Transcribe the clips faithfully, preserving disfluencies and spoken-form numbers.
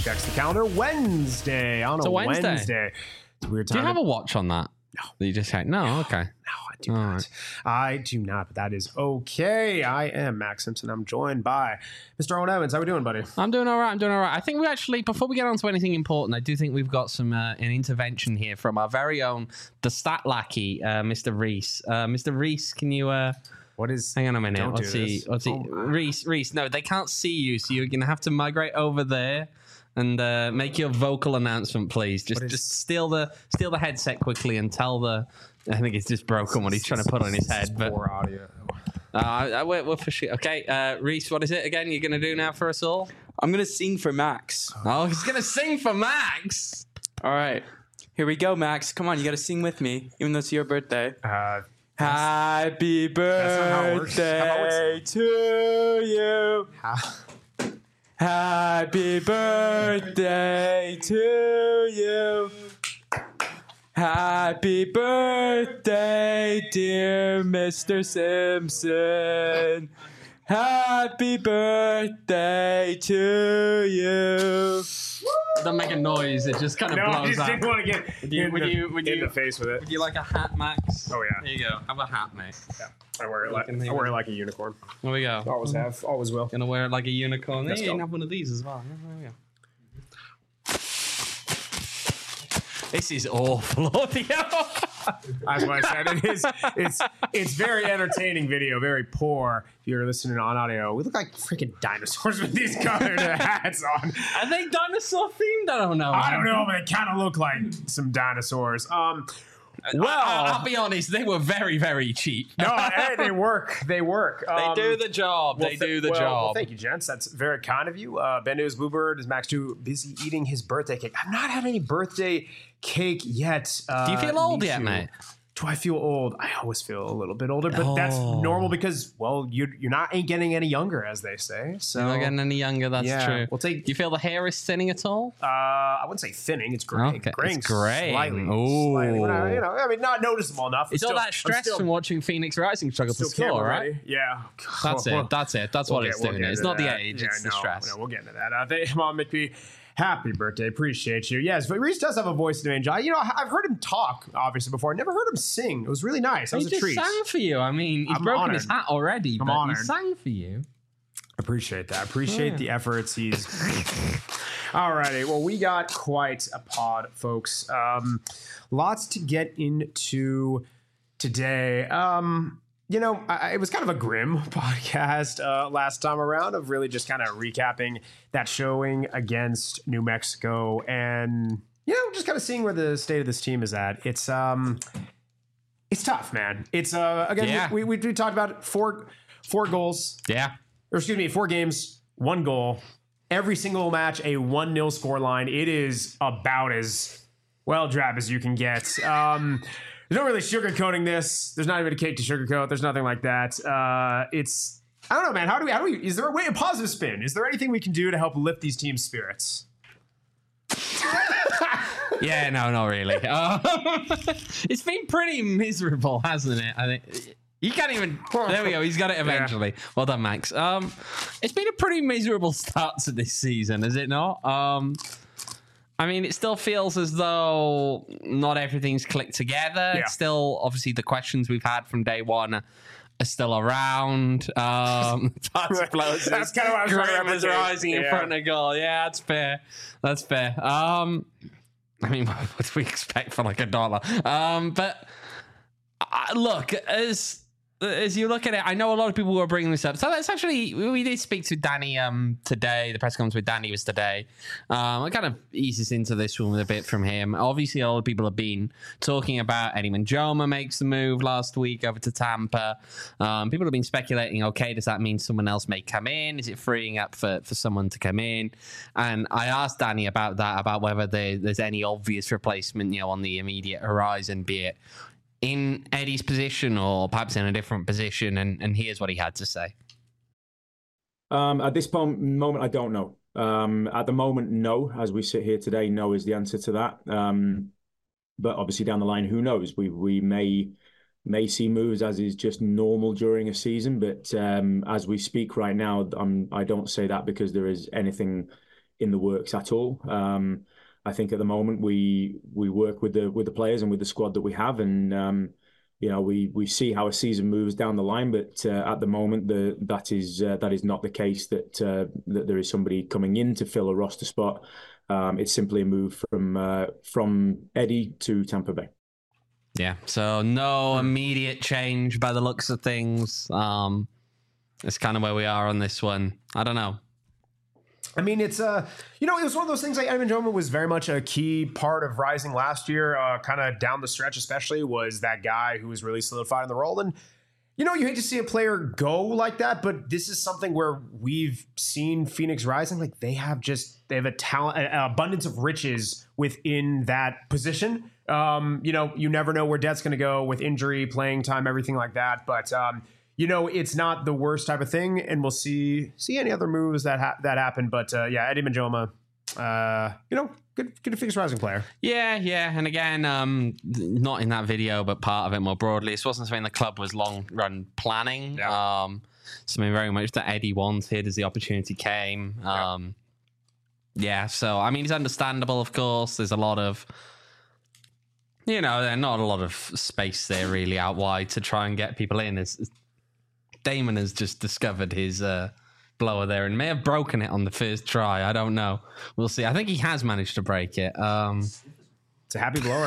checks the calendar. Wednesday on a, a Wednesday. Wednesday. It's a weird time. Do you have a watch on that? No. You just say, no, okay. No, I do All not. right. I do not, but that is okay. I am Max Simpson. I'm joined by Mister Owen Evans. How we doing, buddy? I'm doing all right. I'm doing all right. I think we actually, before we get on to anything important, I do think we've got some uh, an intervention here from our very own, the stat lackey, uh, Mister Reese. Uh, Mister Reese, can you... Uh, What is... hang on a minute. Don't Let's do see. this. Let's see. Oh, Reese, Reese, no, they can't see you, so you're going to have to migrate over there and uh, make your vocal announcement, please. Just is- just steal the steal the headset quickly and tell the... I think it's just broken what he's trying to put on his head. But poor audio. uh, I, we're, we're for sure. Okay, uh, Reese, what is it again you're going to do now for us all? I'm going to sing for Max. Oh, he's going to sing for Max. All right. Here we go, Max. Come on, you got to sing with me, even though it's your birthday. Uh, Happy not how it works. How about birthday to you. how- Happy birthday to you. Happy birthday, dear Mister Simpson. Happy birthday to you. Don't make a noise. It just kind of no, I blows just out. didn't want to get Would you- in, would the, you- would in you- the face with it. Would you like a hat, Max? Oh, yeah. There you go. Have a hat, mate. Yeah. I wear it like can I leave wear it. it like a unicorn. There we go. Always have. Always will. Gonna wear it like a unicorn. Let's Hey, you go. can have one of these as well. There we go. This is awful audio. That's what I said. It is. It's it's very entertaining video. Very poor. If you're listening on audio, we look like freaking dinosaurs with these colored hats on. Are they dinosaur themed? I don't know. I don't know, but they kind of look like some dinosaurs. Um. Well, I, I'll be honest. They were very, very cheap. no, hey, they work. They work. They Um, do the job. well, they th- do the well, job. Well, thank you, gents. That's very kind of you. Uh, Ben News Bluebird is Max too busy eating his birthday cake. I've not had any birthday cake yet. Uh, do you feel old me yet, too. mate? Do I feel old? I always feel a little bit older, but that's Oh. normal because, well, you're you're not ain't getting any younger, as they say. So You're not getting any younger. That's yeah, true. we'll take- Do you feel the hair is thinning at all? uh, I wouldn't say thinning. It's graying. Okay, graying it's graying. slightly. Ooh. Slightly. We're not, you know, I mean, not noticeable enough. It's I'm all still- that stress I'm still, from watching Phoenix Rising struggle to still score, camera right? ready. Yeah. That's it. That's it. That's We'll what get- it's we'll doing. get It's into not the that. age. Yeah, it's the no, stress. No, we'll get into that. Uh, they, Mom McPhee, happy birthday. Appreciate you. Yes, but Reese does have a voice of an angel. You know, I've heard him talk, obviously, before. I never heard him sing. It was really nice. That He was a just treat. sang for you. I mean, he's I'm broken honored. his hat already, I'm but honored. he sang for you. Appreciate that. Appreciate Yeah. the efforts he's. Alrighty. Well, we got quite a pod, folks. Um, lots to get into today. Um, you know, I, it was kind of a grim podcast uh, last time around of really just kind of recapping that showing against New Mexico and, you know, just kind of seeing where the state of this team is at. It's um, it's tough, man. It's uh, again, Yeah. we, we we talked about it, four four goals. Yeah. Or excuse me, four games, one goal. Every single match, a one nil score line. It is about as well drab as you can get. Um, there's no really sugarcoating this. There's not even a cake to sugarcoat. There's nothing like that. Uh, it's I don't know, man. How do we? How do we? Is there a way a positive spin? Is there anything we can do to help lift these teams' spirits? Yeah, no, not really. Um, it's been pretty miserable, hasn't it? I think you can't even. There we go. He's got it eventually. Well done, Max. Um, it's been a pretty miserable start to this season, has it not? Um, I mean, it still feels as though not everything's clicked together. Yeah. It's still obviously the questions we've had from day one are still around. Um, that's explosive. That's kinda what I was trying to Graham is replicate. rising in Yeah. front of goal. Yeah, that's fair. That's fair. Um, I mean, what do we expect for like a dollar? Um, but uh, look, as as you look at it, I know a lot of people were bringing this up. So that's actually, we did speak to Danny um today. The press conference with Danny was today. Um, I kind of eases into this one a bit from him. Obviously, a lot of people have been talking about Eddie Manjoma makes the move last week over to Tampa. Um, people have been speculating, okay, does that mean someone else may come in? Is it freeing up for, for someone to come in? And I asked Danny about that, about whether there, there's any obvious replacement, you know, on the immediate horizon, be it in Eddie's position or perhaps in a different position, and, and here's what he had to say. Um, at this pom- moment, I don't know. Um, at the moment, no. As we sit here today, no is the answer to that. Um, but obviously down the line, who knows? We we may may see moves as is just normal during a season. But um, as we speak right now, I'm, I don't say that because there is anything in the works at all. Um, I think at the moment we we work with the with the players and with the squad that we have, and um, you know we we see how a season moves down the line. But uh, at the moment, the that is uh, that is not the case. That uh, that there is somebody coming in to fill a roster spot. Um, it's simply a move from uh, from Eddie to Tampa Bay. Yeah, so no immediate change by the looks of things. Um, it's kind of where we are on this one. I don't know. I mean, it's, uh, you know, it was one of those things like Eddie Benjoma was very much a key part of Rising last year, uh, kind of down the stretch, especially, was that guy who was really solidified in the role. And, you know, you hate to see a player go like that, but this is something where we've seen Phoenix Rising, like they have just, they have a talent, an abundance of riches within that position. Um, you know, you never know where Dett's going to go with injury, playing time, everything like that. But, um, you know, it's not the worst type of thing, and we'll see see any other moves that ha- that happen. But uh, yeah, Eddie Benjoma, uh, you know, good good Phoenix Rising player. Yeah, yeah, and again, um, not in that video, but part of it more broadly. This wasn't something the club was long run planning. Yeah. Um, something very much that Eddie wanted as the opportunity came. Um, yeah. yeah, so I mean, it's understandable, of course. There's a lot of. You know, there's not a lot of space there really out wide to try and get people in. It's, Damon has just discovered his uh, blower there and may have broken it on the first try. I don't know. We'll see. I think he has managed to break it. Um, it's a happy blower.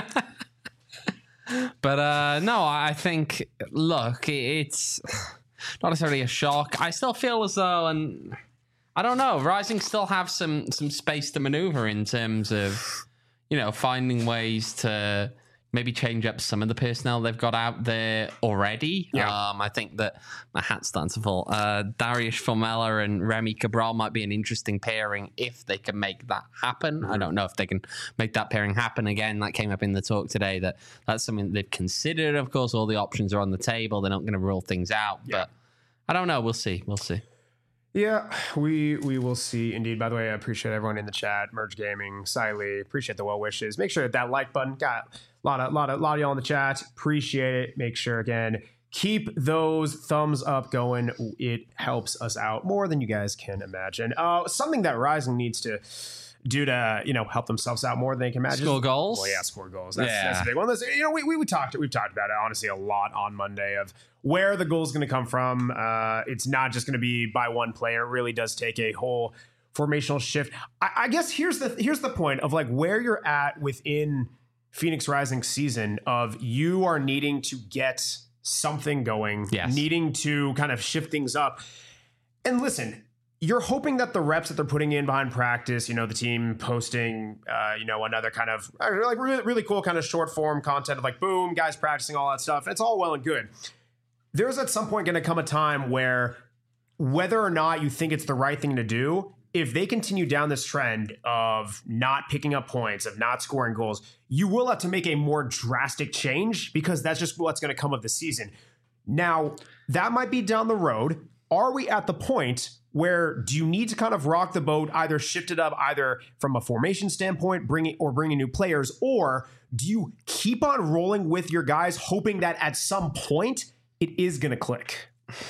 but uh, no, I think, look, it's not necessarily a shock. I still feel as though, and I don't know, Rising still have some some space to maneuver in terms of, you know, finding ways to maybe change up some of the personnel they've got out there already. Yeah. Um, I think that my hat's starting to fall. Uh, Darius Formella and Remy Cabral might be an interesting pairing if they can make that happen. I don't know if they can make that pairing happen. Again, that came up in the talk today, that that's something that they've considered. Of course, all the options are on the table. They're not going to rule things out. Yeah. But I don't know. We'll see. We'll see. Yeah, we we will see indeed. By the way, I appreciate everyone in the chat. Merge Gaming, Siley, appreciate the well wishes. Make sure that that like button got a lot of lot of lot of y'all in the chat. Appreciate it. Make sure again, keep those thumbs up going. It helps us out more than you guys can imagine. Uh, something that Rising needs to do to, you know, help themselves out more than they can imagine. Score goals. Well, yeah, score goals. That's, Yeah. that's a big one. That's, you know, we, we we talked we've talked about it honestly a lot on Monday of where the goal is going to come from. Uh, it's not just going to be by one player. It really does take a whole formational shift. I, I guess here's the here's the point of like where you're at within Phoenix Rising season of you are needing to get something going, Yes. needing to kind of shift things up. And listen, you're hoping that the reps that they're putting in behind practice, you know, the team posting, uh, you know, another kind of uh, like really, really cool kind of short form content of like, boom, guys practicing all that stuff. It's all well and good. There's at some point going to come a time where whether or not you think it's the right thing to do, if they continue down this trend of not picking up points, of not scoring goals, you will have to make a more drastic change because that's just what's going to come of the season. Now, that might be down the road. Are we at the point where do you need to kind of rock the boat, either shift it up, either from a formation standpoint, bring it or bring in new players, or do you keep on rolling with your guys, hoping that at some point it is going to click?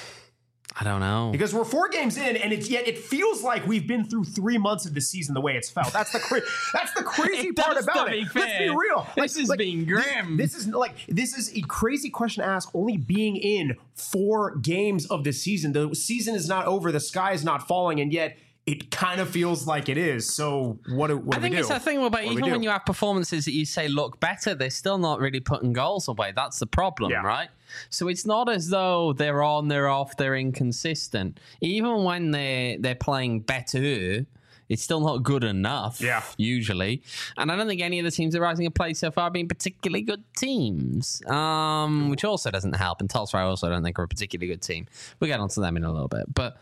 I don't know. Because we're four games in, and it's yet it feels like we've been through three months of the season the way it's felt. That's the cra- that's the crazy It part does, about to be it. Let's be fair. real. This is being grim. This, this is like this is a crazy question to ask. Only being in four games of the season, the season is not over. The sky is not falling, and yet it kind of feels like it is. So what do, what I do think we do? it's a thing about What do we even when do? you have performances that you say look better, they're still not really putting goals away. That's the problem, Yeah. right? So it's not as though they're on, they're off, they're inconsistent. Even when they're they're playing better, it's still not good enough. Yeah. Usually, and I don't think any of the teams that are Rising have played so far have been particularly good teams. Um, which also doesn't help. And Tulsa, I also don't think are a particularly good team. We'll get onto them in a little bit, but.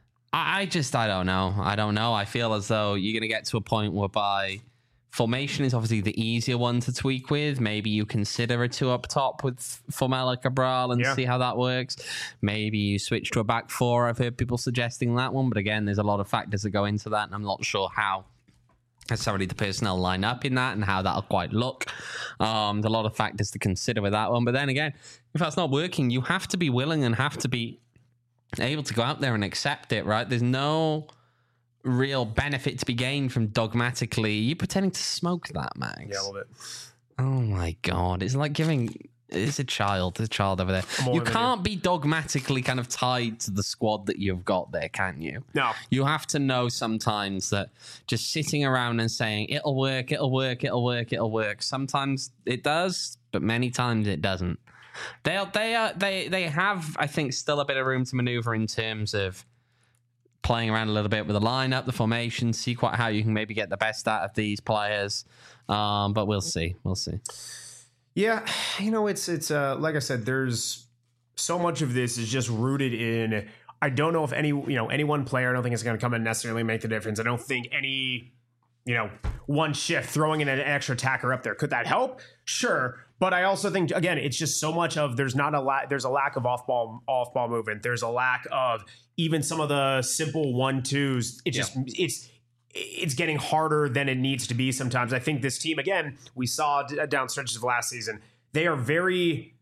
I just, I don't know. I don't know. I feel as though you're going to get to a point whereby formation is obviously the easier one to tweak with. Maybe you consider a two up top with Formella Cabral and Yeah. see how that works. Maybe you switch to a back four. I've heard people suggesting that one. But again, there's a lot of factors that go into that. And I'm not sure how necessarily the personnel line up in that and how that'll quite look. Um, there's a lot of factors to consider with that one. But then again, if that's not working, you have to be willing and have to be able to go out there and accept it, right? There's no real benefit to be gained from dogmatically. You're pretending to smoke that, Max. Yeah, a little bit. Oh my God. It's like giving... It's a child. There's a child over there. You can't be dogmatically kind of tied to the squad that you've got there, can you? No. You have to know sometimes that just sitting around and saying, it'll work, it'll work, it'll work, it'll work. Sometimes it does, but many times it doesn't. They they are, they they have, I think, still a bit of room to maneuver in terms of playing around a little bit with the lineup, the formation, see quite how you can maybe get the best out of these players. Um, but we'll see. We'll see. Yeah, you know, it's it's uh, like I said, there's so much of this is just rooted in. I don't know if any you know any one player. I don't think it's going to come and necessarily make the difference. I don't think any you know one shift throwing in an extra attacker up there could that help? Sure, but I also think again, it's just so much of there's not a lot. There's a lack of off ball off ball movement. There's a lack of even some of the simple one twos. It just yeah. it's. It's getting harder than it needs to be sometimes. I think this team, again, we saw down stretches of last season, they are very,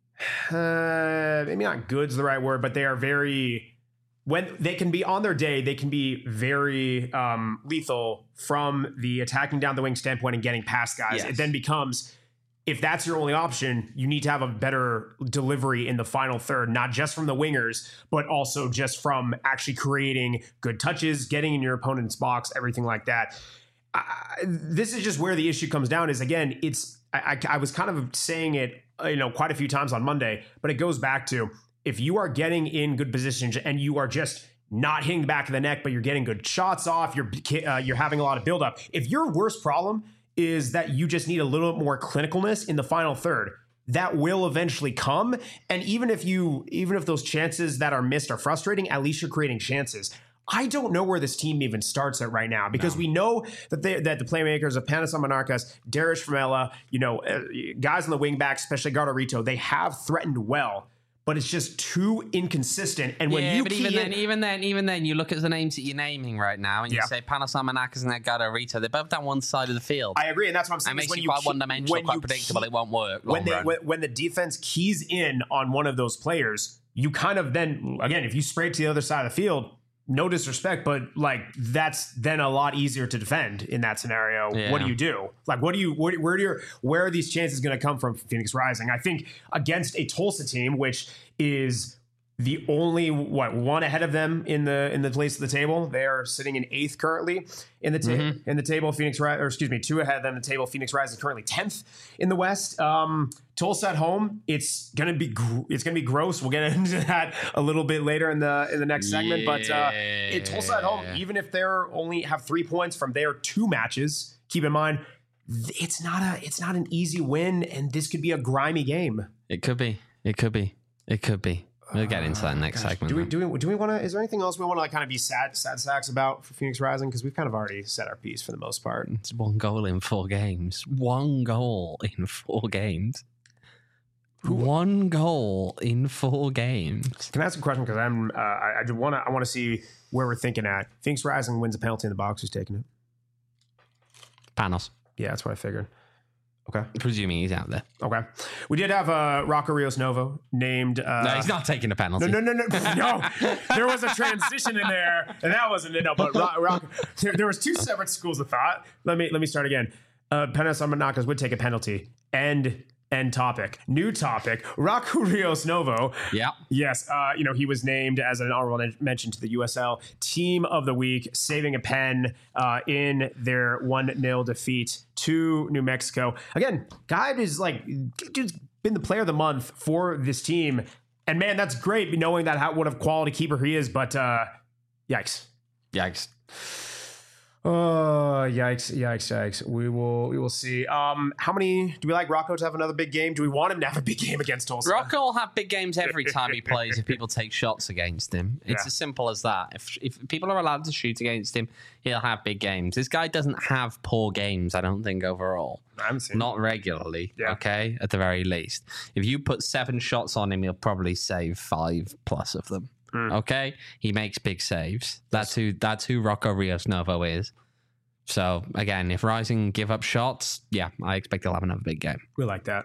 uh, maybe not good's the right word, but they are very, when they can be on their day, they can be very um, lethal from the attacking down the wing standpoint and getting past guys. Yes. It then becomes, if that's your only option, you need to have a better delivery in the final third, not just from the wingers, but also just from actually creating good touches, getting in your opponent's box, everything like that. Uh, this is just where the issue comes down is, again, it's I, I, I was kind of saying it, you know, quite a few times on Monday, but it goes back to if you are getting in good positions and you are just not hitting the back of the neck, but you're getting good shots off, you're uh, you're having a lot of buildup. If your worst problem is that you just need a little bit more clinicalness in the final third, that will eventually come. And even if you, even if those chances that are missed are frustrating, at least you're creating chances. I don't know where this team even starts at right now because no. we know that they, that the playmakers of Panas Amanarkas, Darius Framella, you know, uh, guys on the wing backs, especially Gardarito, they have threatened well. But it's just too inconsistent. And when yeah, you but key even in, then, even then, even then, you look at the names that you're naming right now, and you yeah. say Panas Amanarkas and Edgardo Rito, they're both down one side of the field. I agree, and that's what I'm saying. It makes when you you quite key, one-dimensional, quite predictable. Key, it won't work. When, they, when, when the defense keys in on one of those players, you kind of then, again, if you spray to the other side of the field, no disrespect, but like that's then a lot easier to defend in that scenario. Yeah. What do you do? Like, what do you, where, where do you, where are these chances going to come from Phoenix Rising? I think against a Tulsa team, which is the only what one ahead of them in the in the place of the table. They are sitting in eighth currently in the ta- mm-hmm. in the table. Phoenix Ri- or excuse me, two ahead of them in the table. Phoenix Rising is currently tenth in the West. Um, Tulsa at home. It's gonna be gr- it's gonna be gross. We'll get into that a little bit later in the in the next segment. Yeah. But uh, it, Tulsa at home, even if they're only have three points from their two matches, keep in mind it's not a it's not an easy win, and this could be a grimy game. It could be. It could be. It could be. We'll get into that next Gosh, segment. Do we do we do we want to? Is there anything else we want to like kind of be sad sad sacks about for Phoenix Rising? Because we've kind of already said our piece for the most part. It's one goal in four games. One goal in four games. Who? One goal in four games. Can I ask a question? Because I'm uh, I, I want to I want to see where we're thinking at. Phoenix Rising wins a penalty in the box. Who's taking it? Panos. Yeah, that's what I figured. Okay. Presuming he's out there. Okay. We did have uh, Rocco Rios Novo named. Uh, no, he's not taking a penalty. No, no, no, no. No. There was a transition in there, and that wasn't it. No, but Rock, Rock, there, there was two separate schools of thought. Let me let me start again. Uh, Panas Amanarkas would take a penalty. End. End topic. New topic. Rocco Rios Novo. Yeah. Yes. Uh, you know, he was named as an honorable mention to the U S L Team of the Week, saving a pen uh, in their one nil defeat to New Mexico. Again, guy is like, dude's been the player of the month for this team. And man, that's great knowing that how what a quality keeper he is. But uh, yikes. Yikes. Oh, yikes, yikes, yikes. We will we will see. Um, how many do we like Rocco to have another big game? Do we want him to have a big game against Tulsa? Rocco will have big games every time he plays if people take shots against him. It's Yeah. as simple as that. If if people are allowed to shoot against him, he'll have big games. This guy doesn't have poor games, I don't think, overall. I haven't seen Not regularly, Yeah. okay, at the very least. If you put seven shots on him, he'll probably save five plus of them. Mm. Okay? He makes big saves. That's who that's who Rocco Rios Novo is. So again, if Rising give up shots, yeah, I expect they'll have another big game. We like that.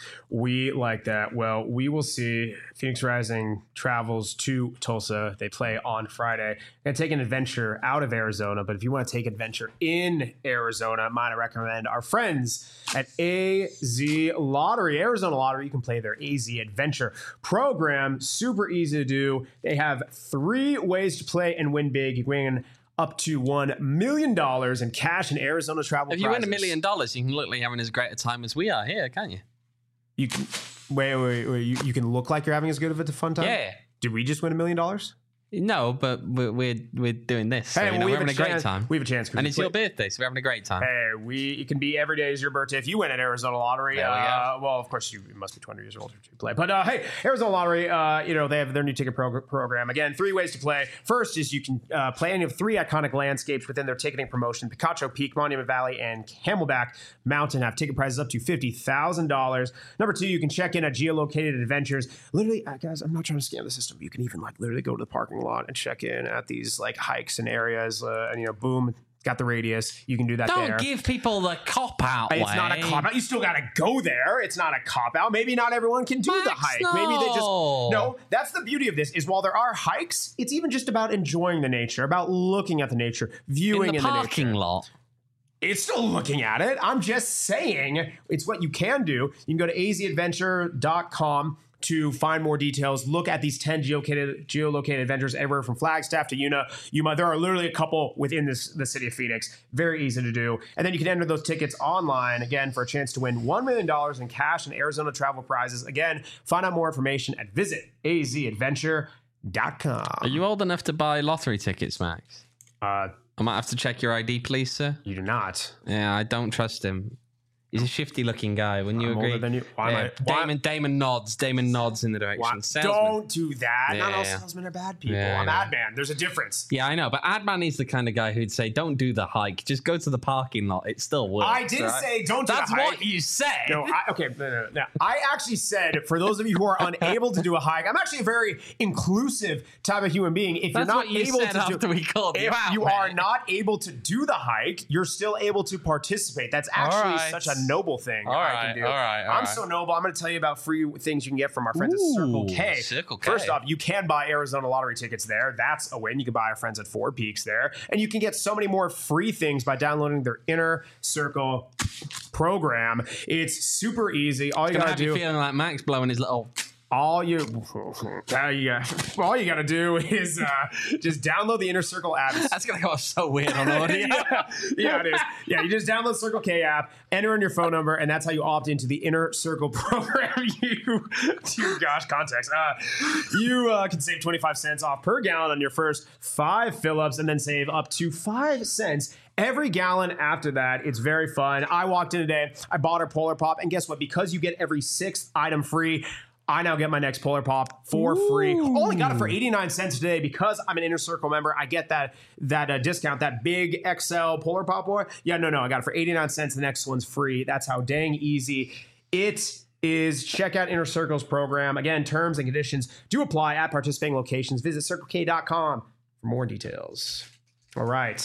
We like that. Well, we will see. Phoenix Rising travels to Tulsa. They play on Friday. Going to take an adventure out of Arizona, but if you want to take adventure in Arizona, might recommend our friends at A Z Lottery. Arizona Lottery, you can play their A Z Adventure program. Super easy to do. They have three ways to play and win big. You can win up to one million dollars in cash and Arizona travel If prizes. you win a million dollars, you can look like you're having as great a time as we are here, can't you? You can wait, wait, wait. You, you can look like you're having as good of a fun time. Yeah. Did we just win a million dollars? No, but we're we're, we're doing this. So, Hey, you well, know, we we're have having a, a great chance- time. we have a chance 'cause and we it's your play- birthday, so we're having a great time. Hey, we it can be every day is your birthday if you win at Arizona Lottery. There we uh, well, of course you must be twenty years old to play. But uh, hey, Arizona Lottery, uh, you know they have their new ticket prog- program. Again, three ways to play. First is you can uh, play any of three iconic landscapes within their ticketing promotion: Picacho Peak, Monument Valley, and Camelback Mountain have ticket prices up to fifty thousand dollars. Number two, you can check in at geolocated adventures. Literally, uh, guys, I'm not trying to scam the system. You can even like literally go to the parking lot and check in at these like hikes and areas, uh, and you know, boom. Got the radius. You can do that Don't there. give people the cop out. It's not a cop out. You still got to go there. It's not a cop out. Maybe not everyone can do Max, the hike. Maybe they just no. no. That's the beauty of this. Is while there are hikes, it's even just about enjoying the nature, about looking at the nature, viewing in the in parking the nature. lot. It's still looking at it. I'm just saying it's what you can do. You can go to a z adventure dot com to find more details. Look at these ten geolocated, geolocated adventures everywhere from Flagstaff to Yuma. Yuma. There are literally a couple within this, the city of Phoenix. Very easy to do. And then you can enter those tickets online, again, for a chance to win one million dollars in cash and Arizona travel prizes. Again, find out more information at visit a z adventure dot com. Are you old enough to buy lottery tickets, Max? Uh, I might have to check your I D, please, sir. you do not. Yeah, I don't trust him. He's a shifty-looking guy. Wouldn't you I'm agree? older than you. Why am Yeah, I- why- Damon, Damon nods. Damon nods in the direction. Why- Salesman. Don't do that. Yeah, Not all yeah. salesmen are bad people. Yeah, I I'm know. ad man. There's a difference. Yeah, I know, but Adman is the kind of guy who'd say, "Don't do the hike. Just go to the parking lot. It still works." I did right? say don't do That's the hike. what you said. No, I, okay, no, no, no. I actually said for those of you who are unable to do a hike, I'm actually a very inclusive type of human being. If That's you're not what you able said to after do, we called you if out, you man. are not able to do the hike, you're still able to participate. That's actually right. such a noble thing. All I right, can do. all right, all I'm right. so noble. I'm going to tell you about free things you can get from our friends Ooh, at Circle K. Circle K. First off, you can buy Arizona Lottery tickets there. That's a win. You can buy our friends at Four Peaks there, and you can get so many more free things by downloading their Inner Circle program. It's super easy. All you Gonna gotta have do, you feeling like Max blowing his little. all you, all you, got- all you gotta do is uh, just download the Inner Circle app. It's- That's gonna go so weird on audio. yeah, yeah, it is. Yeah, you just download Circle K app, enter in your phone number, and that's how you opt into the Inner Circle program. You, dear gosh, context. Uh, you uh, can save twenty-five cents off per gallon on your first five fill-ups, and then save up to five cents every gallon after that. It's very fun. I walked in today, I bought our Polar Pop, and guess what? Because you get every sixth item free, I now get my next Polar Pop for free. Only got it for eighty-nine cents today because I'm an Inner Circle member. I get that that uh, discount, that big X L Polar Pop boy. Yeah, no, no, I got it for eighty-nine cents. The next one's free. That's how dang easy it is. Check out Inner Circle's program. Again, terms and conditions do apply at participating locations. Visit circle k dot com for more details. All right.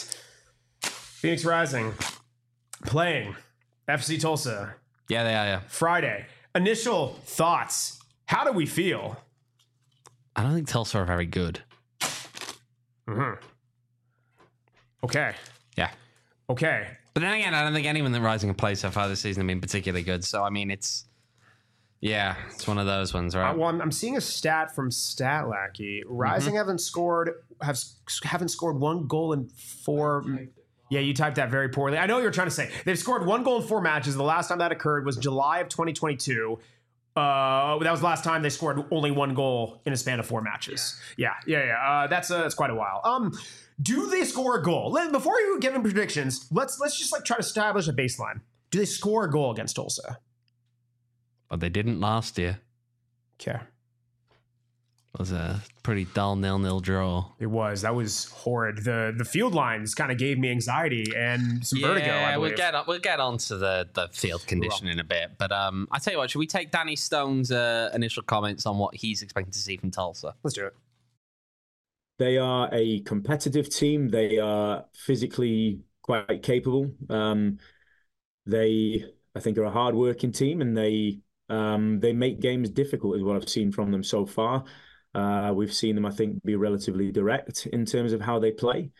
Phoenix Rising playing F C Tulsa Yeah, they are. Yeah. Friday. Initial thoughts. How do we feel? I don't think Tulsa are very good. Okay. Yeah. Okay. But then again, I don't think anyone that Rising have played so far this season have been particularly good. So, I mean, it's... Yeah, it's one of those ones, right? Uh, well, I'm, I'm seeing a stat from StatLackey. Rising haven't scored have haven't scored one goal in four. Yeah, you typed that very poorly. I know what you're trying to say. They've scored one goal in four matches. The last time that occurred was July of twenty twenty-two. Uh, that was the last time they scored only one goal in a span of four matches. Yeah, yeah, yeah. Uh, that's uh, that's quite a while. Um, do they score a goal? Let, before you give them predictions, let's let's just like try to establish a baseline. Do they score a goal against Tulsa? But they didn't last year. Okay. It was a pretty dull nil-nil draw. It was. That was horrid. The the field lines kind of gave me anxiety and some vertigo, I Yeah, believe. we'll get on, we'll get on to the, the field condition in a bit. But um, I tell you what, should we take Danny Stone's uh, initial comments on what he's expecting to see from Tulsa? Let's do it. They are a competitive team. They are physically quite capable. Um, they, I think, are a hard-working team, and they um, they make games difficult, is what I've seen from them so far. Uh, we've seen them, I think, be relatively direct in terms of how they play.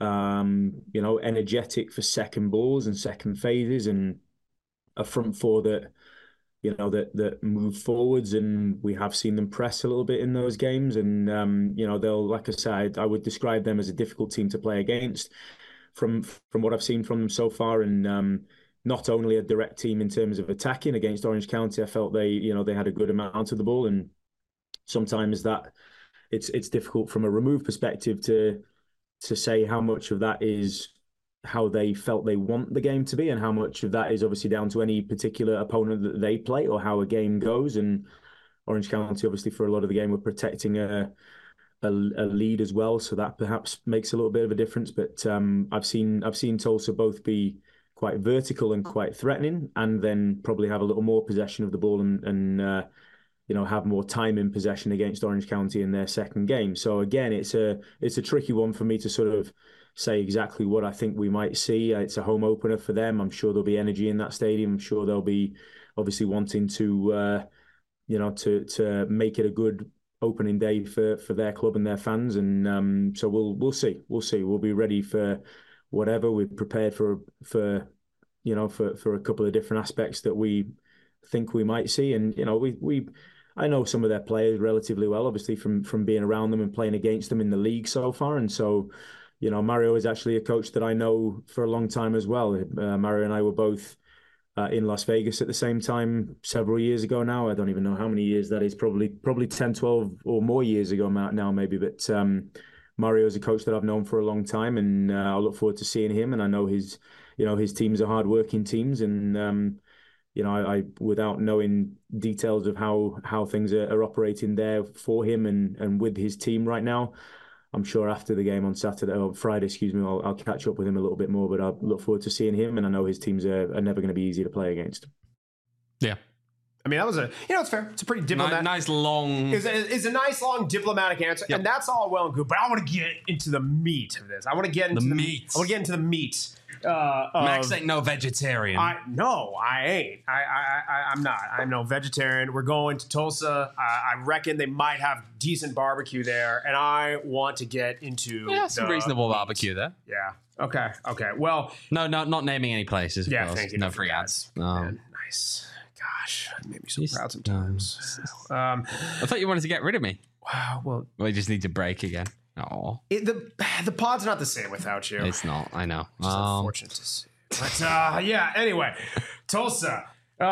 Um, you know, energetic for second balls and second phases, and a front four that, you know, that that move forwards, and we have seen them press a little bit in those games. And um, you know, they'll, like I said, I would describe them as a difficult team to play against from from what I've seen from them so far. And um, not only a direct team in terms of attacking against Orange County, I felt they, you know, they had a good amount of the ball, and sometimes that it's it's difficult from a remove perspective to to say how much of that is how they felt they want the game to be, and how much of that is obviously down to any particular opponent that they play or how a game goes. And Orange County, obviously, for a lot of the game, were protecting a a, a lead as well, so that perhaps makes a little bit of a difference. But um, I've seen I've seen Tulsa both be quite vertical and quite threatening, and then probably have a little more possession of the ball and and uh, you know, have more time in possession against Orange County in their second game. So again, it's a it's a tricky one for me to sort of say exactly what I think we might see. It's a home opener for them. I'm sure there'll be energy in that stadium. I'm sure they'll be obviously wanting to, uh, you know, to to make it a good opening day for for their club and their fans. And um, so we'll we'll see. We'll see. We'll be ready for whatever. We're prepared for for you know for for a couple of different aspects that we think we might see. And you know, we we. I know some of their players relatively well, obviously, from from being around them and playing against them in the league so far. And so, you know, Mario is actually a coach that I know for a long time as well. Uh, Mario and I were both uh, in Las Vegas at the same time several years ago now. I don't even know how many years that is, probably probably ten, twelve or more years ago now maybe. But um, Mario is a coach that I've known for a long time, and uh, I look forward to seeing him. And I know his, you know, his teams are hard-working teams, and um, you know, I, I without knowing details of how how things are, are operating there for him and and with his team right now, I'm sure after the game on Saturday or Friday, excuse me, I'll, I'll catch up with him a little bit more. But I look forward to seeing him, and I know his teams are, are never going to be easy to play against. Yeah. I mean, that was a, you know, it's fair. It's a pretty diplomatic. Nice, nice long. It's a, it's a nice long diplomatic answer, Yep. and that's all well and good. But I want to get into the meat of this. I want to get into The the, meat. I want to get into the meat. Uh, of, Max ain't no vegetarian. I no, I ain't. I, I, I I'm not. I'm no vegetarian. We're going to Tulsa. I, I reckon they might have decent barbecue there, and I want to get into yeah, some the reasonable meat. barbecue there. Yeah. Okay. Okay. Well. No, no, not naming any places. Of Yeah. course. Thank you. No for free that. ads. Man, Um, nice. Gosh, it made me so Yes. proud sometimes. Um, I thought you wanted to get rid of me. wow. Well, We just need to break again. Oh, it, the the pod's not the same without you. it's not. I know. It's Um, unfortunate to see. But uh, yeah. Anyway, Tulsa.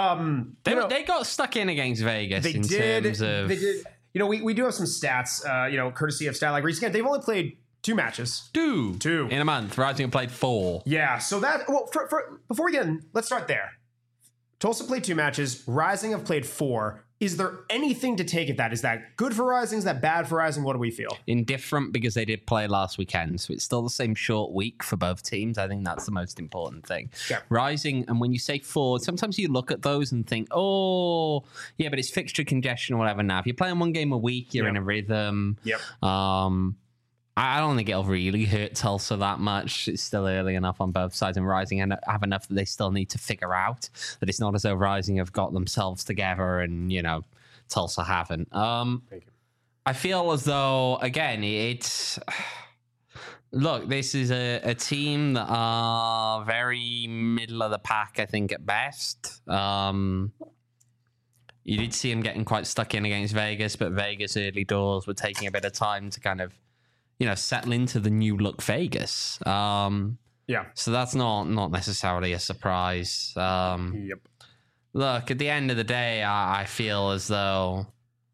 Um, they, you know, they got stuck in against Vegas they in did. terms of. They did. You know, we, we do have some stats. Uh, you know, courtesy of Stat Like Reese. Again, they've only played two matches. Two. Two. In a month. Rising played four. Yeah. So that. Well, for, for, before we get in, let's start there. Tulsa played two matches. Rising have played four. Is there anything to take at that? Is that good for Rising? Is that bad for Rising? What do we feel? Indifferent because they did play last weekend. So it's still the same short week for both teams. I think that's the most important thing. Yeah. Rising, and when you say four, sometimes you look at those and think, oh, yeah, but it's fixture congestion or whatever now. If you're playing one game a week, you're Yep. in a rhythm. Yep. Um, I don't think it'll really hurt Tulsa that much. It's still early enough on both sides, and Rising have enough that they still need to figure out that it's not as though Rising have got themselves together and, you know, Tulsa haven't. Um, Thank you. I feel as though, again, it's... Look, this is a, a team that are very middle of the pack, I think, at best. Um, you did see them getting quite stuck in against Vegas, but Vegas early doors were taking a bit of time to kind of, you know, settle into the new look Vegas. Um, Yeah. so that's not not necessarily a surprise. Um, Yep. look, at the end of the day, I, I feel as though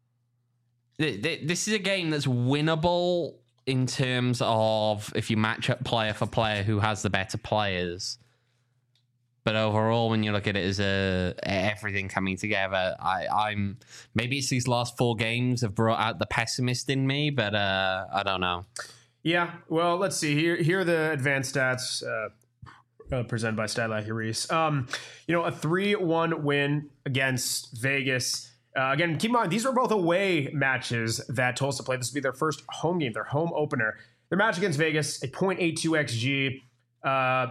th- th- this is a game that's winnable in terms of if you match up player for player who has the better players. But overall, when you look at it as a everything coming together, I, I'm maybe it's these last four games have brought out the pessimist in me, but uh, I don't know. Yeah. Well, let's see. Here, here are the advanced stats uh, uh, presented by Statlack Reese. Um, you know, a three one win against Vegas. Uh, again, keep in mind, these were both away matches that Tulsa played. This will be their first home game, their home opener. Their match against Vegas, a point eight two X G. Uh,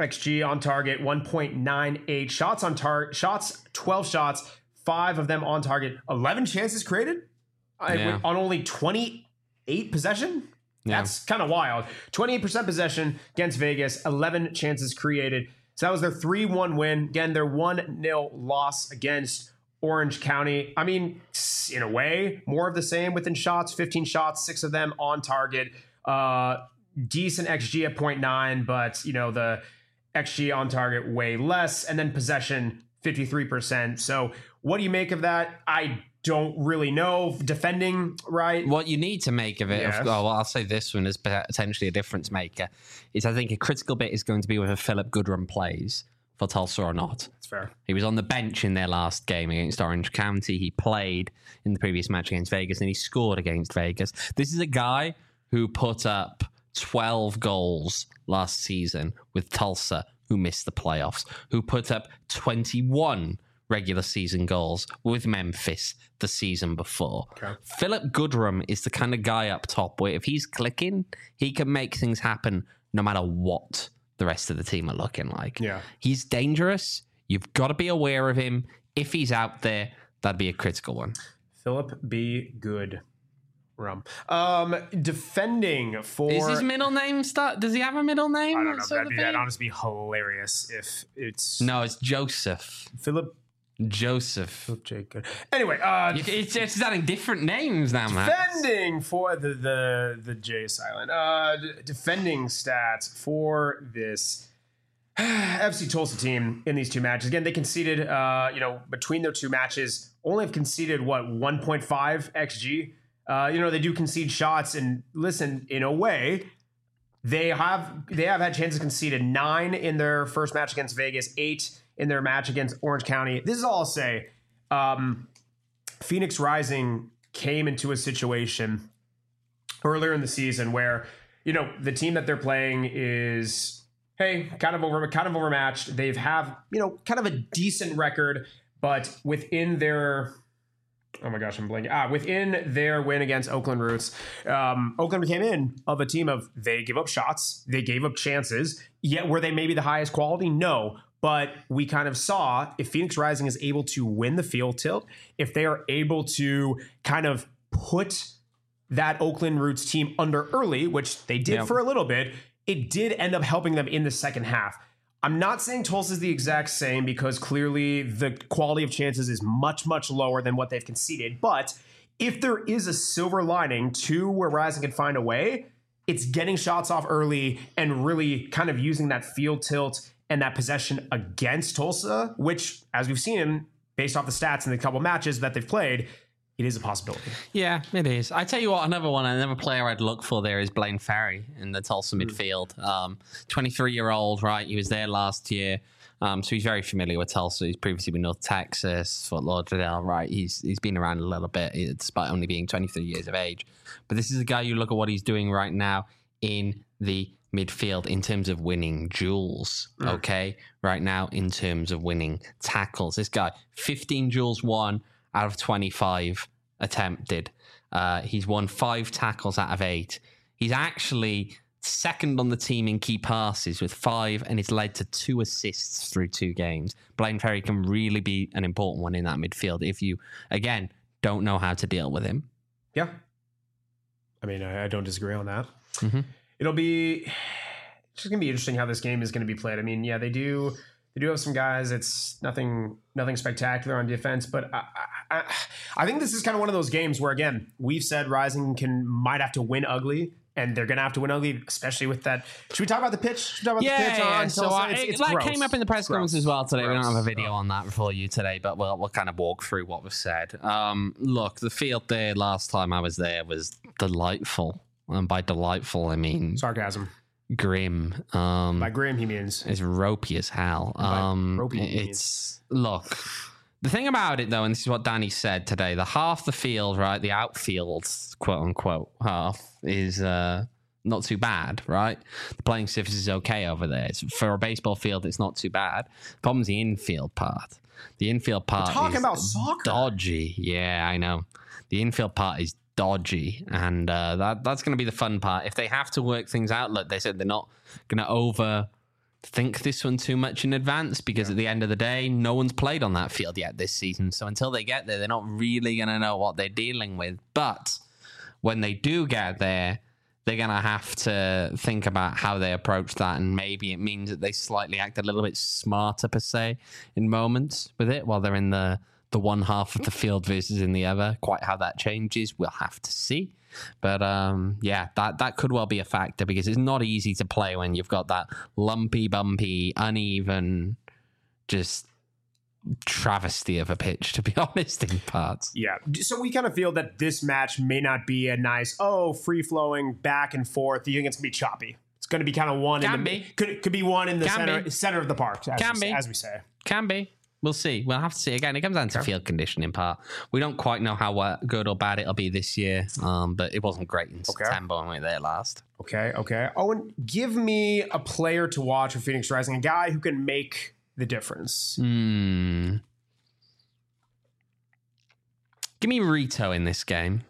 X G on target, one point nine eight. Shots on target, shots, twelve shots, five of them on target. eleven chances created Yeah. on only twenty-eight possession. Yeah. That's kind of wild. twenty-eight percent possession against Vegas, eleven chances created. So that was their three one win. Again, their one nil loss against Orange County. I mean, in a way, more of the same within shots, fifteen shots, six of them on target. Uh, decent X G at zero point nine, but, you know, the X G on target way less. And then possession, fifty-three percent. So what do you make of that? I don't really know. Defending, right? What you need to make of it, Yes. of, oh, well, I'll say this one is potentially a difference maker, is I think a critical bit is going to be whether Philip Goodrum plays for Tulsa or not. That's fair. He was on the bench in their last game against Orange County. He played in the previous match against Vegas, and he scored against Vegas. This is a guy who put up twelve goals last season with Tulsa, who missed the playoffs, who put up twenty-one regular season goals with Memphis the season before. Okay. Philip Goodrum is the kind of guy up top where if he's clicking, he can make things happen no matter what the rest of the team are looking like. Yeah. He's dangerous. You've got to be aware of him. If he's out there, that'd be a critical one. Philip B. Good. Rum. Um, defending for... Is his middle name start? Does he have a middle name? I don't know. sort That'd of be, thing? that'd honestly be hilarious if it's... No, it's Joseph. Philip... Joseph. Philip J. Good. Anyway, uh... You- It's, it's adding different names now, man. defending for the the the J silent. Uh, d- defending stats for this F C Tulsa team in these two matches. Again, they conceded. Uh, you know, between their two matches, only have conceded what one point five X G. Uh, you know, they do concede shots, and listen, in a way, they have they have had chances conceded nine in their first match against Vegas, eight in their match against Orange County. This is all I'll say. Um, Phoenix Rising came into a situation earlier in the season where, you know, the team that they're playing is, hey, kind of over, kind of overmatched. They've have, you know, kind of a decent record, but within their, oh my gosh, I'm blanking. Ah, within their win against Oakland Roots, um, Oakland came in of a team of they give up shots, they gave up chances. Yet were they maybe the highest quality? No. But we kind of saw if Phoenix Rising is able to win the field tilt, if they are able to kind of put that Oakland Roots team under early, which they did Yep. for a little bit, it did end up helping them in the second half. I'm not saying Tulsa's the exact same because clearly the quality of chances is much, much lower than what they've conceded. But if there is a silver lining to where Rising can find a way, it's getting shots off early and really kind of using that field tilt and that possession against Tulsa, which, as we've seen based off the stats in the couple matches that they've played, it is a possibility. Yeah, it is. I tell you what, another one, another player I'd look for there is Blaine Ferry in the Tulsa midfield. Um, twenty-three-year-old, right? He was there last year. Um, so he's very familiar with Tulsa. He's previously been North Texas, Fort Lauderdale, right? He's he's been around a little bit, despite only being twenty-three years of age. But this is a guy, you look at what he's doing right now in the midfield in terms of winning duels, okay? Right now in terms of winning tackles. This guy, fifteen duels won out of twenty-five attempted. Uh, he's won five tackles out of eight. He's actually second on the team in key passes with five, and it's led to two assists through two games. Blaine Ferry can really be an important one in that midfield if you, again, don't know how to deal with him. Yeah. I mean, I, I don't disagree on that. Mm-hmm. It'll be it's just gonna be interesting how this game is gonna be played. I mean, yeah, they do they do have some guys. It's nothing nothing spectacular on defense, but I, I, I think this is kind of one of those games where, again, we've said Rising can might have to win ugly, and they're gonna have to win ugly, especially with that. Should we talk about the pitch? Should we talk about Yeah, the pitch yeah. on So Tulsa? uh, It's- it- it's that gross. came up in the press Gross. conference as well today. We don't have a Gross. video on that for you today, but we'll we'll kind of walk through what we've said. Um, look, the field there last time I was there was delightful, and by delightful I mean Sarcasm. grim. Um, By grim, he means it's ropey as hell. by Um, ropey, he it's look. The thing about it, though, and this is what Danny said today, the half the field, right, the outfield, quote unquote, half is uh, not too bad, right? The playing surface is okay over there. It's, for a baseball field, it's not too bad. The problem's the infield part. The infield part talking is about soccer. dodgy. Yeah, I know. The infield part is dodgy, and uh, that that's going to be the fun part. If they have to work things out, look, they said they're not going to over think this one too much in advance because at the end of the day, no one's played on that field yet this season. So until they get there, they're not really going to know what they're dealing with. But when they do get there, they're going to have to think about how they approach that. And maybe it means that they slightly act a little bit smarter, per se, in moments with it while they're in the, the one half of the field versus in the other. Quite how that changes, we'll have to see. But um, yeah, that, that could well be a factor because it's not easy to play when you've got that lumpy, bumpy, uneven, just travesty of a pitch, to be honest, in parts. Yeah. So we kind of feel that this match may not be a nice, oh, free-flowing back and forth. You think it's going to be choppy. It's going to be kind of one Can in the be. Could, could be one in the Can center be. center of the park, as, Can we, be. as we say. Can be. We'll see. We'll have to see. Again, it comes down to field condition in part. We don't quite know how uh, good or bad it'll be this year, um, but it wasn't great in Okay. September when we were there last. Okay, okay. Owen, give me a player to watch for Phoenix Rising, a guy who can make the difference. Hmm. Give me Rito in this game.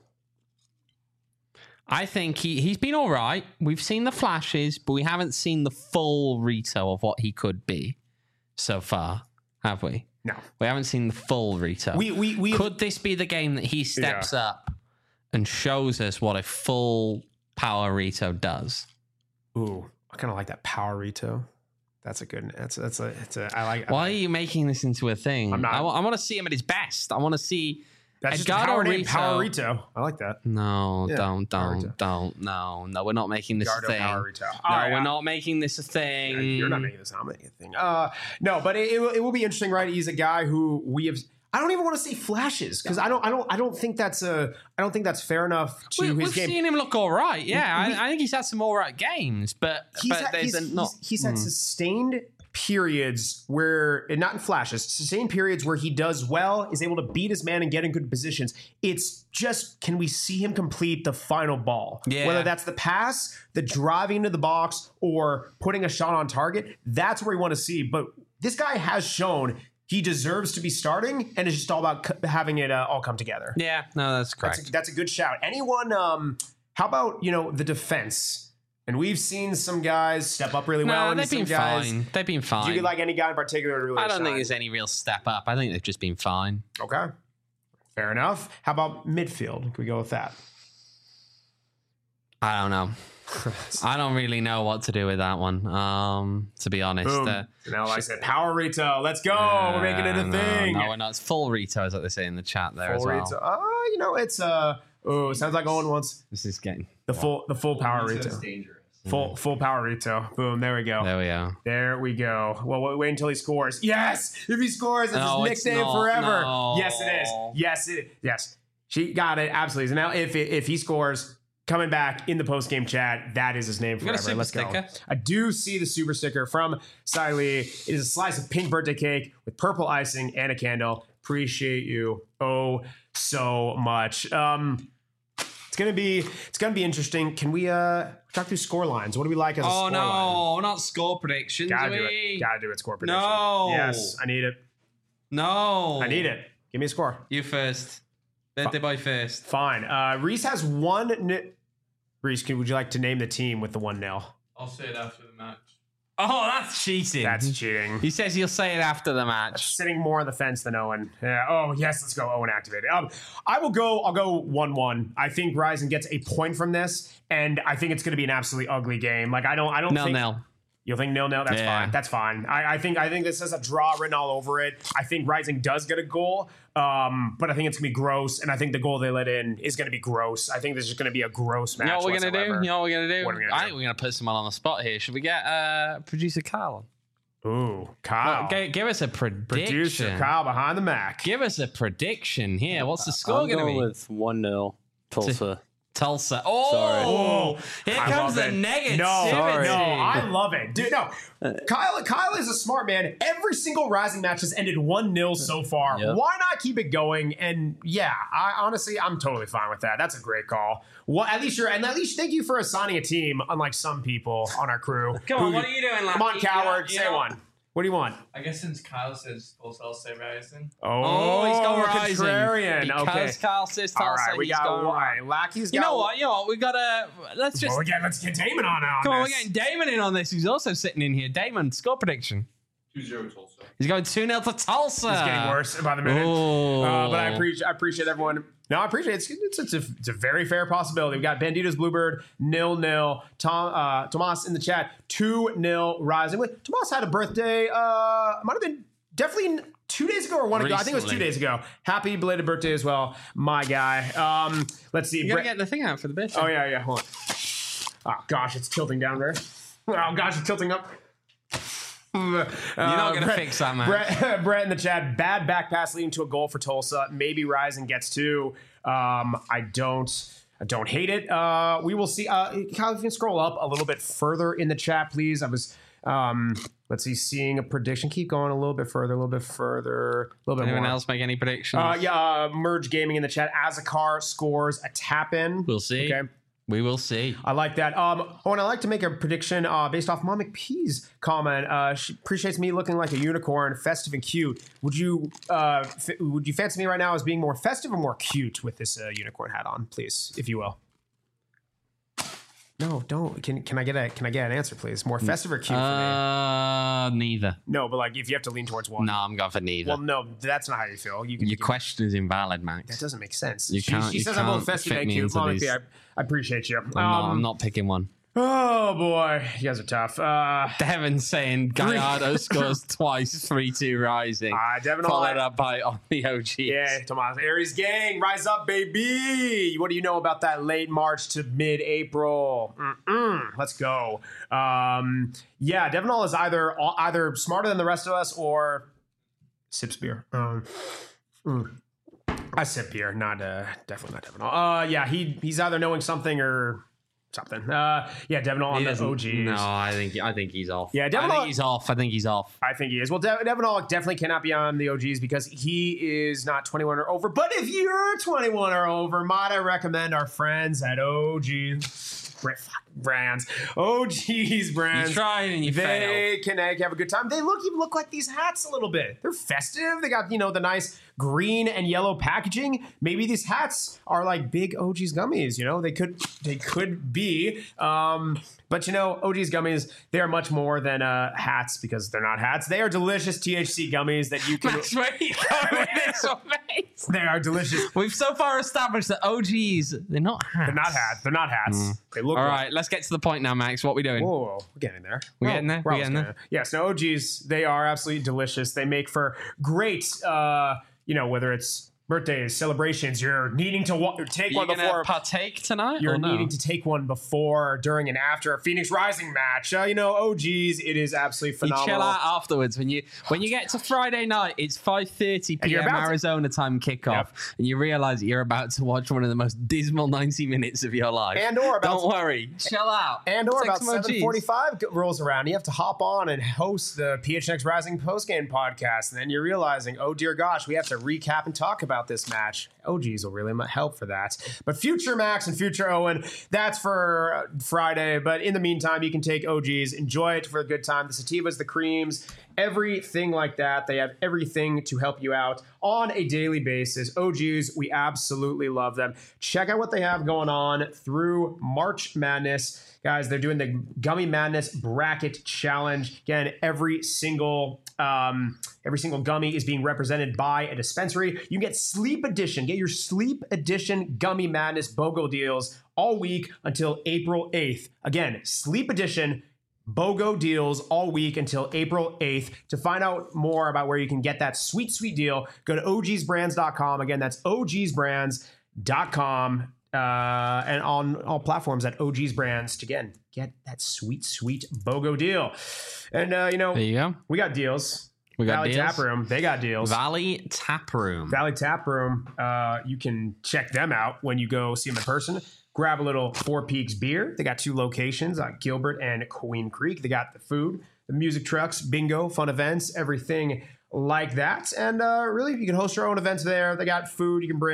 I think he, he's been all right. We've seen the flashes, but we haven't seen the full Rito of what he could be so far, have we? No. We haven't seen the full Rito. We we we Could this be the game that he steps Yeah. up and shows us what a full power Rito does? Ooh, I kind of like that power Rito. That's a good. That's that's a. It's a. I like. Why are you making this into a thing? I'm not- I, wa- I want to see him at his best. I want to see That's just a Edgardo power name, Rito. Power Rito. I like that. No, Yeah, don't, Power don't, Rito. don't. No, no, we're not making this Gardo a thing. Power Rito. No, All right, we're I- not making this a thing. You're not making this. I'm making a thing. Uh, no, but it, it, will, it will be interesting, right? He's a guy who we have. I don't even want to say flashes because I don't. I don't. I don't think that's a. I don't think that's fair enough to We, his we've game. seen him look all right. Yeah, We- I, I think he's had some all right games, but He's but had, there's he's, a, not. he's, he's had sustained periods where, and not in flashes, sustained periods where he does well, is able to beat his man and get in good positions. It's just, can we see him complete the final ball? Yeah. Whether that's the pass, the driving into the box, or putting a shot on target, that's where we want to see. But this guy has shown he deserves to be starting, and it's just all about c- having it uh, all come together. Yeah, no, that's correct. That's a, that's a good shout. Anyone, um, how about, you know, the defense? And we've seen some guys step up really well. no, and they've some been guys, fine. They've been fine. do you like any guy in particular to really I don't shine? think there's any real step up. I think they've just been fine. Okay. Fair enough. How about midfield? Can we go with that? I don't know. I don't really know what to do with that one. Um, to be honest, Boom. Uh, now, like I said, power Rito. Let's go. We're making it a no, thing. No, we're not. It's full Rito, is what they say in the chat there Full as well. Rito. Oh, you know, it's uh oh, sounds like Owen wants This is getting. the full the full power Rito. dangerous. Full full power Rito. Boom. There we go. There we are. There we go. Well, wait, wait until he scores. Yes! If he scores, it's No, his it's nickname not. forever. No. Yes, it is. Yes, it Yes. She got it. Absolutely. So now if if he scores, coming back in the post-game chat, that is his name got a forever. super Let's go. sticker? I do see the super sticker from Siley. It is a slice of pink birthday cake with purple icing and a candle. Appreciate you oh so much. Um, it's gonna be it's gonna be interesting. Can we uh talk through score lines? What do we like as a Oh score line? no, not score predictions. Gotta are do we? it. Gotta do it. Score prediction. No. Yes, I need it. No. I need it. Give me a score. You first. Birthday boy first. Fine. Uh, Reese has one. N- Reese, can, would you like to name the team with the one nil? I'll say it after the match. Oh, that's cheating. That's cheating. He says he'll say it after the match. Sitting more on the fence than Owen. Yeah. Oh yes, let's go. Owen activated. Um, I will go. I'll go one one. I think Ryzen gets a point from this, and I think it's going to be an absolutely ugly game. Like I don't. I don't Nil think. nil. You'll think nil nil. That's Yeah. fine. That's fine. I, I think. I think this has a draw written all over it. I think Rising does get a goal, um, but I think it's gonna be gross, and I think the goal they let in is gonna be gross. I think this is gonna be a gross match. You know what we're gonna whatsoever. do? You know what we're gonna do? What are we gonna I do? think we're gonna put someone on the spot here. Should we get uh, producer Kyle on? Ooh, Kyle. G- give us a prediction. Producer Kyle behind the Mac. Give us a prediction here. What's the score I'm gonna going be? with one nil Tulsa. Tulsa. Oh, Sorry. here I comes love the it. negativity. No, Sorry. no, I love it. Dude, no. Kyle Kyle is a smart man. Every single Rising match has ended one nil so far. Yep. Why not keep it going? And yeah, I honestly, I'm totally fine with that. That's a great call. Well, at least you're, and at least thank you for assigning a team, unlike some people on our crew. Come on, who- what are you doing, Come on, Lappy? coward. You Say know- one. What do you want? I guess since Kyle says Tulsa, I'll say Rising. Oh, he's going Rising. Contrarian. Because Okay. Kyle says Tulsa, All right, we he's got going one. Rising. Lackey's got You know what? You know what? We gotta let's just Well, again, let's get Damon on on come on. We're this. getting Damon in on this. He's also sitting in here. Damon, score prediction. two zero Tulsa. He's going two nil to Tulsa. It's getting worse by the minute. Oh. Uh, but I appreciate I appreciate everyone. No, I appreciate it. It's, it's, it's, a, it's a very fair possibility. We've got Bandito's Bluebird, nil nil. Tom, uh, Tomas in the chat, two nil Rising. Wait, Tomas had a birthday. Uh, might have been definitely two days ago or one ago. I think it was two Recently. days ago. Happy belated birthday as well, my guy. Um, let's see. You gotta Brett- get the thing out for the bitch. oh, yeah, yeah. Hold on. Oh, gosh, it's tilting down there. Oh, gosh, it's tilting up. You're You're not gonna fix that, man. Brett, Brett in the chat. Bad back pass leading to a goal for Tulsa. Maybe Rising gets two. Um, I don't. I don't hate it. Uh, we will see. Uh, Kyle, if you can scroll up a little bit further in the chat, please. I was. Um, let's see. Seeing a prediction. Keep going a little bit further. A little bit further. A little bit Anyone more. else make any predictions? Uh, yeah. Uh, Merge Gaming in the chat. Azakar scores a tap in. We'll see. Okay. We will see. I like that. Um, oh, and I like to make a prediction uh, based off Mom McPee's comment. Uh, she appreciates me looking like a unicorn, festive and cute. Would you uh, f- would you fancy me right now as being more festive or more cute with this uh, unicorn hat on, please, if you will? No, don't. Can can I get a can I get an answer, please? More festive or cute for me? Uh, neither. No, but like if you have to lean towards one. No, I'm going for neither. Well, no, that's not how you feel. You can. Your you can- question is invalid, Max. that doesn't make sense. You she can't- she you says I'm both can't festive fit and me cute. into Mom these. McPee, I, I appreciate you. I'm, not, I'm Um, not picking one. Oh boy, you guys are tough. Uh, Devin saying Gallardo scores twice, three two Rising. uh, Devin, Followed all up by on the O Gs. Yeah, Tomas. Aries gang, rise up, baby. What do you know about that late March to mid-April? Mm-mm. Let's go. Um, yeah, Devin All is either either smarter than the rest of us or sips beer. Um, mm. I sip beer, not uh, definitely not Devin All. Uh, yeah, he he's either knowing something or something. Uh, yeah, Devin All on He the doesn't- O Gs. No, I think I think he's off. Yeah, Devin I think All- he's off. I think he's off. I think he is. Well, De- Devin All definitely cannot be on the O Gs because he is not twenty-one or over. But if you're twenty-one or over, might I recommend our friends at O Gs Bra- fuck, brands, O Gs brands. You tried and you they failed. can uh, have a good time. They look even look like these hats a little bit. They're festive. They got, you know, the nice green and yellow packaging. Maybe these hats are like big O Gs gummies. You know, they could they could be. Um, but you know, O Gs gummies, they are much more than uh, hats because they're not hats. They are delicious T H C gummies that you can. Max, where are you going with this one, mate? They are delicious. We've so far established that O Gs, they're not hats. They're not hats. They're not hats. They look. All like- right, let's get to the point now, Max. What are we doing? Whoa, whoa, whoa, we're getting there. We're Well, getting there? we're We're almost getting there? Yes, no, O Gs, they are absolutely delicious. They make for great, uh, you know, whether it's birthdays, celebrations, you're needing to wa- take Are you one gonna before. partake tonight? You're or no? needing to take one before, during, and after a Phoenix Rising match. Uh, you know, O Gs, it is absolutely You phenomenal. chill out afterwards when you when you get to Friday night. It's five thirty And you're p.m. about to- Arizona time kickoff, Yep. and you realize that you're about to watch one of the most dismal ninety minutes of your life. And or about don't worry, chill out. And or Take about some O Gs. seven forty-five rolls around, you have to hop on and host the P H N X Rising postgame podcast, and then you're realizing, oh dear gosh, we have to recap and talk about this match. O Gs will really mu- help for that. But future Max and future Owen, that's for uh, Friday. But in the meantime, you can take O Gs, enjoy it for a good time. The sativas, the creams, everything like that. They have everything to help you out on a daily basis. O Gs, we absolutely love them. Check out what they have going on through March Madness. Guys, they're doing the Gummy Madness Bracket Challenge. Again, every single um, every single gummy is being represented by a dispensary. You can get Sleep Edition. Get your Sleep Edition Gummy Madness BOGO deals all week until April eighth. Again, Sleep Edition BOGO deals all week until April eighth. To find out more about where you can get that sweet, sweet deal, go to O Gs brands dot com. Again, that's O Gs brands dot com. Uh, and on all platforms at O Gs Brands to, again, get that sweet, sweet BOGO deal. And, uh, you know, There you go. we got deals. We got Valley deals. Tap Room, they got deals. Valley Tap Room. Valley Tap Room, uh, you can check them out when you go see them in person. Grab a little Four Peaks beer. They got two locations, uh, Gilbert and Queen Creek. They got the food, the music trucks, bingo, fun events, everything like that. And uh, really, you can host your own events there. They got food you can bring,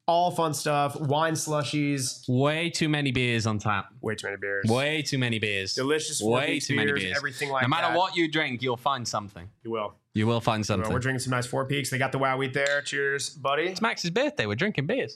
all fun stuff. Wine slushies. Way too many beers on tap. Way too many beers. Way too many beers. Delicious. Way Four too many beers, beers. Everything like No matter that. what you drink, you'll find something. You will. You will find Well, something. we're drinking some nice Four Peaks. They got the Wow Wheat there. Cheers, buddy. It's Max's birthday. We're drinking beers.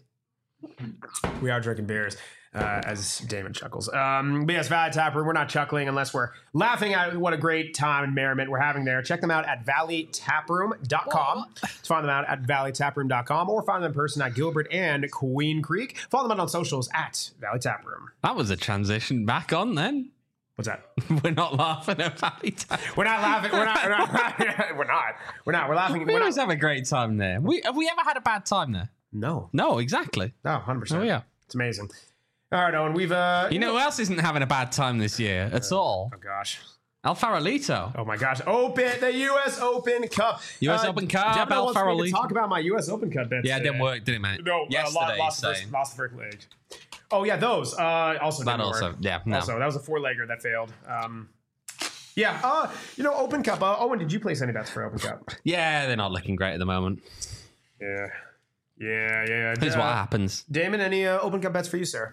We are drinking beers, uh, as Damon chuckles. Um, but yes, Valley Tap Room. We're not chuckling unless we're laughing at what a great time and merriment we're having there. Check them out at valley taproom dot com. To find them out at valley taproom dot com or find them in person at Gilbert and Queen Creek. Follow them out on socials at Valley Taproom. That was a transition back on then. What's that? We're not laughing at Valley Tap. We're not laughing. We're not. We're not. we're not. We're not. We're laughing. We We're always not. have a great time there. We, have we ever had a bad time there? No. No, exactly. No, one hundred percent. Oh, yeah. It's amazing. All right, Owen. We've, uh, You know who else isn't having a bad time this year at all? oh, gosh. El Farolito. Oh my gosh! Open the U S Open Cup. U S Open Cup, Devin Al wants me to Farolito. talk about my U S Open Cup bets. Yeah, it didn't today. work, did it, mate? No, Yesterday, uh, lost, the saying. first, lost the first leg. Oh yeah, those. Uh, also That didn't also, work. yeah, no. Also, that was a four-legger that failed. Um, yeah. Uh, you know, Open Cup. Uh, Owen, did you place any bets for Open Cup? Yeah, they're not looking great at the moment. Yeah. Yeah, yeah. yeah. Here's Uh, what happens. Damon, any uh, Open Cup bets for you, sir?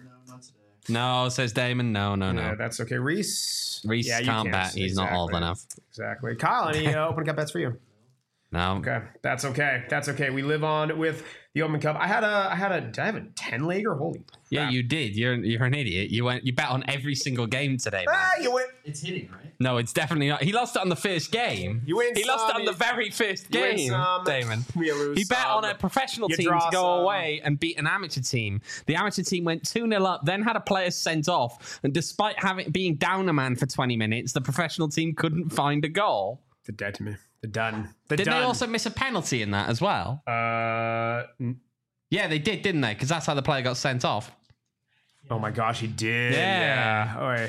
No, says Damon. No, no, Yeah, no. that's okay. Reese. Reese yeah, you can't bet. He's not old Exactly. enough. Exactly. Kyle, any uh, Open Cup bets for you? No. Okay, that's okay. That's okay. We live on with the Open Cup. I had a, I had a, did I have a ten legger? Holy Yeah, crap. you did. You're you're an idiot. You went. You bet on every single game today, man. Ah, you win. It's hitting, right? No, it's definitely not. He lost it on the first game. You win He lost it some, on the you- very first you win game, some, Damon. you lose He bet some. on a professional You team draw to go some. away and beat an amateur team. The amateur team went two nil up, then had a player sent off, and despite having being down a man for twenty minutes, the professional team couldn't find a goal. They're dead to me. They're done. They're Did done. they also miss a penalty in that as well? Uh, n- Yeah, they did, didn't they? Because that's how the player got sent off. oh my gosh, he did. Yeah. Yeah. Oi.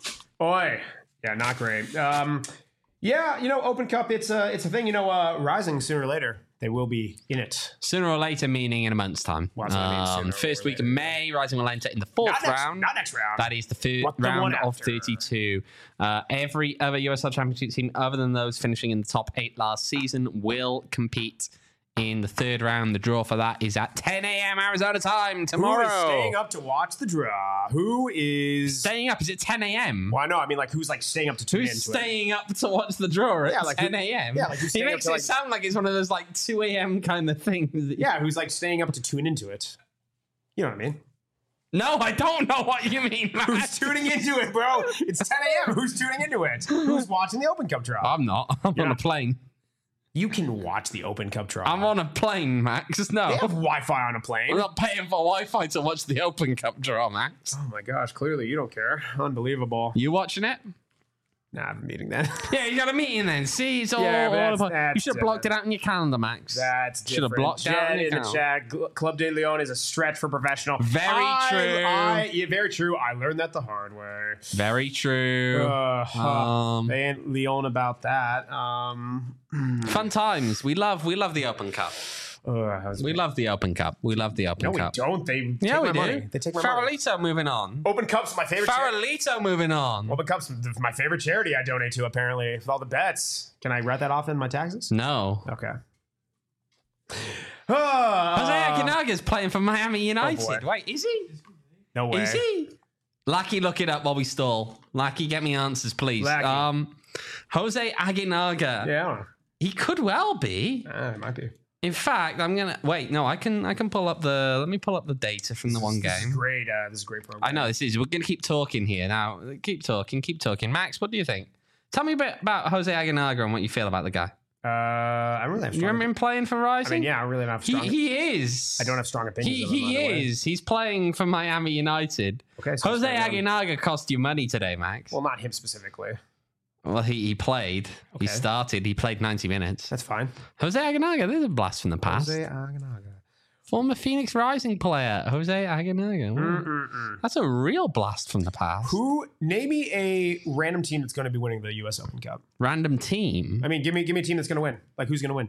Oi. Yeah, not great. Um, yeah, you know, Open Cup, it's a, it's a thing. You know, uh, Rising sooner or later, they will be in it. Sooner or later, meaning in a month's time. Well, that's what I mean, sooner Um, or first week later. of May, Rising will enter in the fourth Not next, round. not next round. That is the third What the one round of after? thirty-two. Uh, every other U S L Championship team, other than those finishing in the top eight last season, will compete in the third round. The draw for that is at ten a.m. Arizona time tomorrow. Who is staying up to watch the draw? Who is... Staying up? Is it ten a.m.? Well, I know. I mean, like, who's, like, staying up to tune Who's into staying up to watch the draw at Yeah, like who- ten a.m.? yeah, like who's he staying up makes to, it like- sound like it's one of those like two a.m. kind of things. it? Yeah, who's, like, staying up to tune into it. You know what I mean? No, I don't know what you mean, man. Who's tuning into it, bro? It's ten a.m. Who's tuning into it? Who's watching the Open Cup draw? I'm not. I'm on a not- plane. You can watch the Open Cup draw. I'm on a plane, Max. No. They have Wi-Fi on a I'm plane. not paying for Wi-Fi to watch the Open Cup draw, Max. Oh my gosh, clearly you don't care. Unbelievable. You watching it? Nah, I have a meeting then. Yeah, you got a meeting then. See, it's all, Yeah, but all that's- about. that's You should have blocked it different. out in your calendar, Max. That's Should have different. blocked out Jen in your in the calendar. chat. Gl- Club de Leon is a stretch for professional. Very I- true. I, yeah, very true. I learned that the hard way. Very true. Uh, huh. Um, they ain't Leon about that. Um, Fun times. We love. We love the Open Cup. uh, that was We love the Open Cup. We love the Open no, we Cup. don't. They take Yeah, my we do. money. They take my money. Farolito moving on. Open Cup's my favorite. charity. Farolito moving on. Open Cup's my favorite charity. I donate to apparently with all the bets. Can I write that off in my taxes? No. Okay. Jose Uh, Aguinaldo's playing for Miami United. boy. Wait, is he? no way. Is he? Lucky, look it up while we stall. Lucky, get me answers, please. Lucky. Um, Jose Aguinaga. Yeah, I don't know. He could well be. Uh, it might be. In fact, I'm gonna wait. No, I can. I can pull up the. Let me pull up the data from the one This is game. great. Uh, this is a great program. I know this is. We're gonna keep talking here now. Keep talking. Keep talking. Max, what do you think? Tell me a bit about Jose Aguinaga and what you feel about the guy. Uh, I don't really have You strong. remember him playing for I Rising? mean, yeah, I really don't have He strong. he is. I don't have strong opinions. He of him, he by the way. is. He's playing for Miami United. Okay, so Jose it's not him. Aguinaga cost you money today, Max. Well, not him specifically. Well, he, he played. He Okay. started. He played ninety minutes. That's fine. Jose Aguinaga, there's a blast from the past. Jose Aguinaga. Former Phoenix Rising player, Jose Aguinaga. Mm-mm-mm. That's a real blast from the past. Who? Name me a random team that's going to be winning the U S Open Cup. Random team. I mean, give me give me a team that's going to win. Like, who's going to win?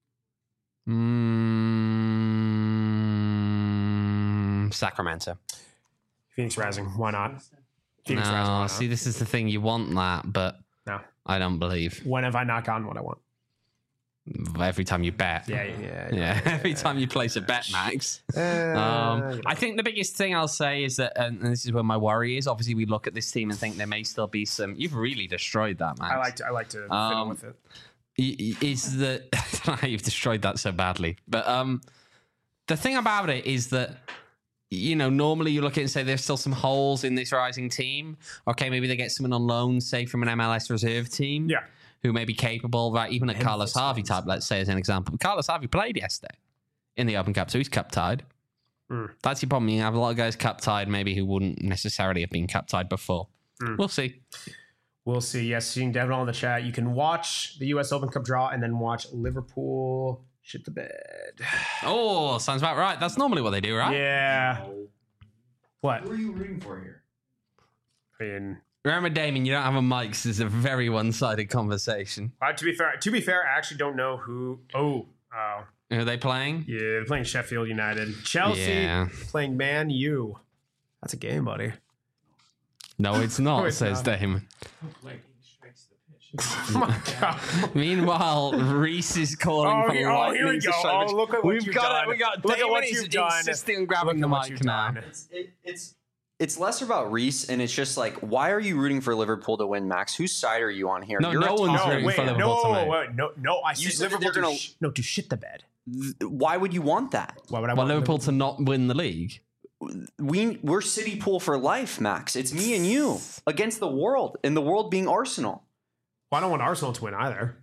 Mm, Sacramento. Phoenix Rising. Why not? Phoenix Rising. Why No, not? see, this is the thing. You want that, but No. I don't believe. When have I not gotten what I want? Every time you bet. Yeah, yeah, yeah. Yeah, every time you place a bet, Max. Uh, Um, you know. I think the biggest thing I'll say is that, and this is where my worry is. Obviously, we look at this team and think there may still be some. You've really destroyed that, Max. I like to I like to fiddle Um, with it. y- y- Is that I don't know how you've destroyed that so badly, but um, the thing about it is that. You know, normally you look at it and say there's still some holes in this rising team. Okay, maybe they get someone on loan, say from an M L S reserve team. Yeah. Who may be capable, right? Even a Carlos Harvey type, let's say, as an example. Carlos Harvey played yesterday in the Open Cup, so he's cup tied. Mm. That's your problem. You have a lot of guys cup tied, maybe who wouldn't necessarily have been cup tied before. Mm. We'll see. We'll see. Yes, seeing Devin on the chat. You can watch the U S Open Cup draw and then watch Liverpool shit the bed. Oh, sounds about right. That's normally what they do, right? Yeah. What? Who are you rooting for here? I mean, Remember, Damien, you don't have a mic, so it's a very one-sided conversation. uh, to be fair, to be fair, I actually don't know who. Oh, oh, Who are they playing? yeah, they're playing Sheffield United, Chelsea Yeah. playing Man U. That's a game, buddy. No, it's not, No, it's says not. Damon. Lightning strikes the pitch. Oh my god. Meanwhile, Reese is calling Oh, for here- oh, lightning here we to go. strike Oh, the- look at what We've you've got done. It, we got Look at Damon what is you've done. insisting on grabbing Look the at what mic you've now. done. It's, it, it's it's less about Reese, and it's just like, why are you rooting for Liverpool to win, Max? Whose side are you on here? No, You're no a one's top- No, rooting wait, for no, Liverpool tonight. wait, no, no. I You said said that Liverpool they're to gonna- sh- no to shit the bed. Why would you want that? Why would I Well, want Liverpool to not win the league. We we're City Pool for life, Max. It's me and you against the world, and the world being Arsenal. Well, I don't want Arsenal to win either.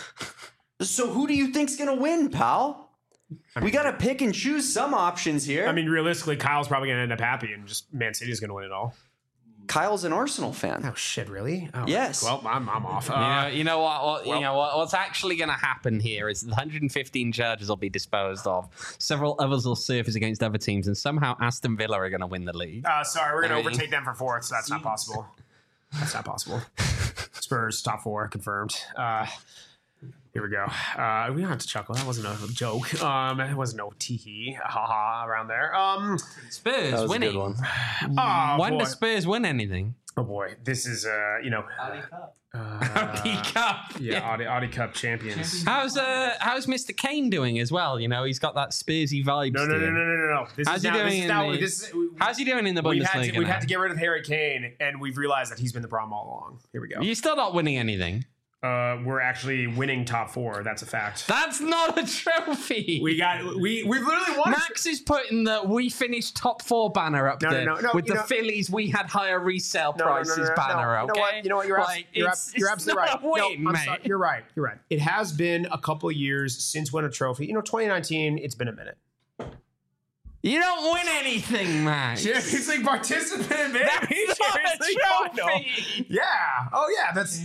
So who do you think's gonna win, pal? We gotta pick and choose some options here. I mean, realistically, Kyle's probably going to end up happy, and just Man City's going to win it all. Kyle's an Arsenal fan. Oh shit, really? Oh, Yes. Well, I'm, I'm off. You know, Uh, you know what? what well- you know what? What's actually going to happen here is one hundred fifteen charges will be disposed of. Several others will surface against other teams, and somehow Aston Villa are going to win the league. uh, sorry, we're going I to mean- overtake them for fourth. So that's not possible. That's not possible. Spurs top four confirmed. Uh, here we go. Uh, we don't have to chuckle. That wasn't a joke. Um, it wasn't no tee haha around there. Um, Spurs That was a winning. good one. oh, When boy. does Spurs win anything? Oh boy, this is uh, you know, Audi Cup. Audi uh, Cup. yeah, Audi, Audi Cup champions. How's uh how's Mister Kane doing as well? You know, he's got that Spursy vibes. No, no, to no, no, him. no, no, no. This How's is he now, doing this is in now, the- this is, How's he doing in the we've Bundesliga? had to, we've now? had to get rid of Harry Kane, and we've realized that he's been the problem all along. Here we go. You're still not winning anything. Uh, we're actually winning top four. That's a fact. That's not a trophy. We got we we literally won. Max is putting the "we finished top four" banner up No, no, there no, no, with you the know- Phillies. We had higher resale No, no, no, prices no, no, banner. no. Okay, You know what? You know what? You're, abs- Like, you're, it's- abs- you're it's absolutely not right. a win, no, I'm mate. sorry. You're right. You're right. It has been a couple of years since winning a trophy. You know, twenty nineteen. It's been a minute. You don't win anything, Max. Champions League participant, man. That's not Champions a League final. trophy. Yeah. Oh yeah. That's.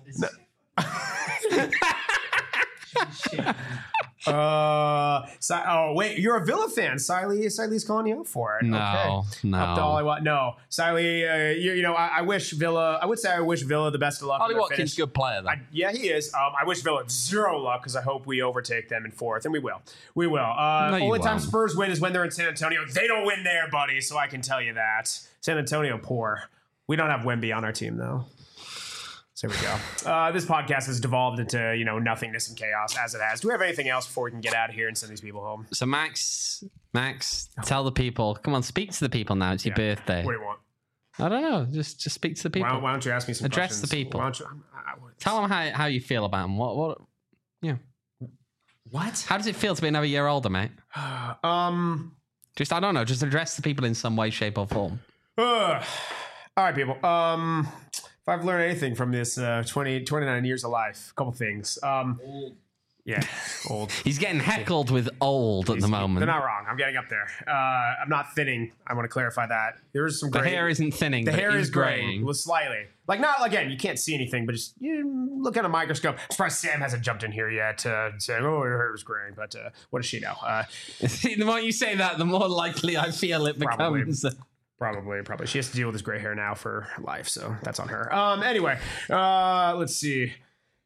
Uh, Si- oh wait, you're a Villa fan. Siley, Siley's calling you out for it. No, okay. no. Up to Ollie Wat- No, Siley, uh, you, you know, I, I wish Villa. I would say I wish Villa the best of luck. Ollie in their Watkins, finish. good player though. I, yeah, he is. Um, I wish Villa zero luck because I hope we overtake them in fourth, and we will. We will. Uh, No, you only time won't. Spurs win is when they're in San Antonio. They don't win there, buddy. So I can tell you that San Antonio poor. We don't have Wemby on our team though. So there we go. Uh, this podcast has devolved into, you know, nothingness and chaos as it has. Do we have anything else before we can get out of here and send these people home? So Max, Max, tell the people. Come on, speak to the people now. It's your Yeah. birthday. What do you want? I don't know. Just, just speak to the people. Why, why don't you ask me some Address questions? the people. Why don't you, I, I, Tell them how, how you feel about them. What, what? Yeah. What? How does it feel to be another year older, mate? Um. Just, I don't know. Just address the people in some way, shape, or form. Uh, all right, people. Um. If I've learned anything from this uh, twenty, twenty-nine years of life, a couple things. Um, yeah, old. He's getting heckled with old at the moment. They're not wrong. I'm getting up there. Uh, I'm not thinning. I want to clarify that. There's some The gray. hair isn't thinning. The but hair it is graying, graying. well, slightly. Like not again. You can't see anything, but just you look at a microscope. I'm surprised Sam hasn't jumped in here yet uh, saying, "Oh, your hair is graying." But uh, what does she know? Uh, the more you say that, the more likely I feel it Probably. becomes. Probably, probably. She has to deal with this gray hair now for life, so that's on her. Um. Anyway, uh, let's see.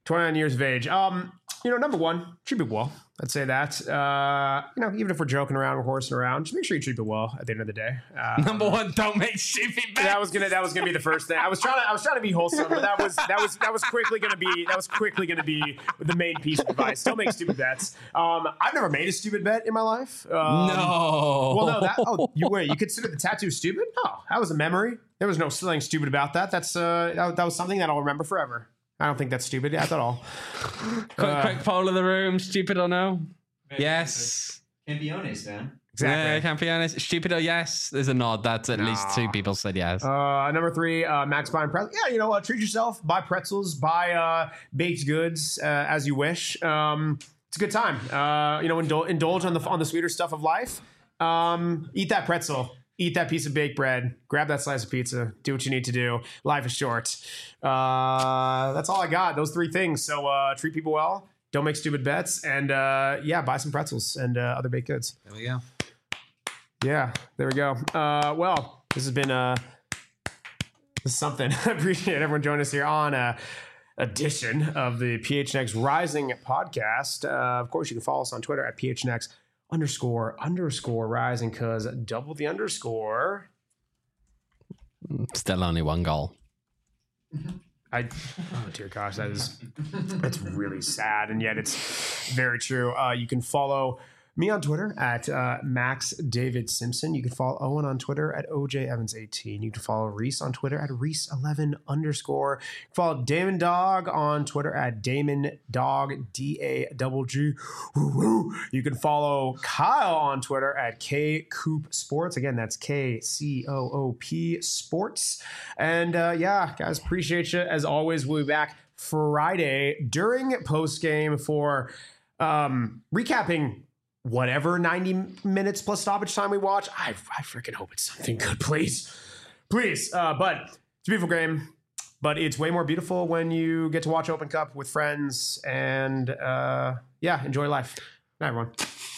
twenty-nine years of age. Um, you know, number one, treat people well. I'd say that. Uh, you know, even if we're joking around, we're horsing around, just make sure you treat people well at the end of the day. Um, Number one, don't make stupid bets. that was gonna that was gonna be the first thing. I was trying to I was trying to be wholesome, but that was that was that was quickly gonna be that was quickly gonna be the main piece of advice. Don't make stupid bets. Um, I've never made a stupid bet in my life. Um, No. Well, no. That, oh, you wait. You consider the tattoo stupid? Oh, that was a memory. There was no something stupid about that. That's uh, that, that was something that I'll remember forever. I don't think that's stupid at all. quick, uh, quick poll of the room. Stupid or no? Yes. Can't be honest, man. Exactly. Yeah, can't be honest. Stupid or yes? There's a nod. That's at least two people said yes. Uh, number three, uh, Max buying pretzels. Yeah, you know what? Treat yourself. Buy pretzels. Buy uh, baked goods uh, as you wish. Um, it's a good time. Uh, you know, indul- indulge on the on the sweeter stuff of life. Um, eat that pretzel. Eat that piece of baked bread. Grab that slice of pizza. Do what you need to do. Life is short. Uh, that's all I got. Those three things. So uh, treat people well. Don't make stupid bets. And uh, yeah, buy some pretzels and uh, other baked goods. There we go. Yeah, there we go. Uh, well, this has been uh, this is something. I appreciate everyone joining us here on a edition of the P H N X Rising podcast. Uh, of course, you can follow us on Twitter at P H N X underscore underscore rising because double the underscore. Still only one goal. I oh dear gosh, that is that's really sad, and yet it's very true. Uh, you can follow me on Twitter at uh, Max David Simpson. You can follow Owen on Twitter at O J Evans eighteen. You can follow Reese on Twitter at Reese eleven underscore. You can follow Damon Dog on Twitter at Damon Dog D A double G. You can follow Kyle on Twitter at K Coop Sports. Again, that's K C O O P Sports. And uh, yeah, guys, appreciate you as always. We'll be back Friday during post game for um, recapping whatever ninety minutes plus stoppage time we watch. I, I freaking hope it's something good, please. Please. Uh, but it's a beautiful game, but it's way more beautiful when you get to watch Open Cup with friends and uh, yeah, enjoy life. Night, everyone.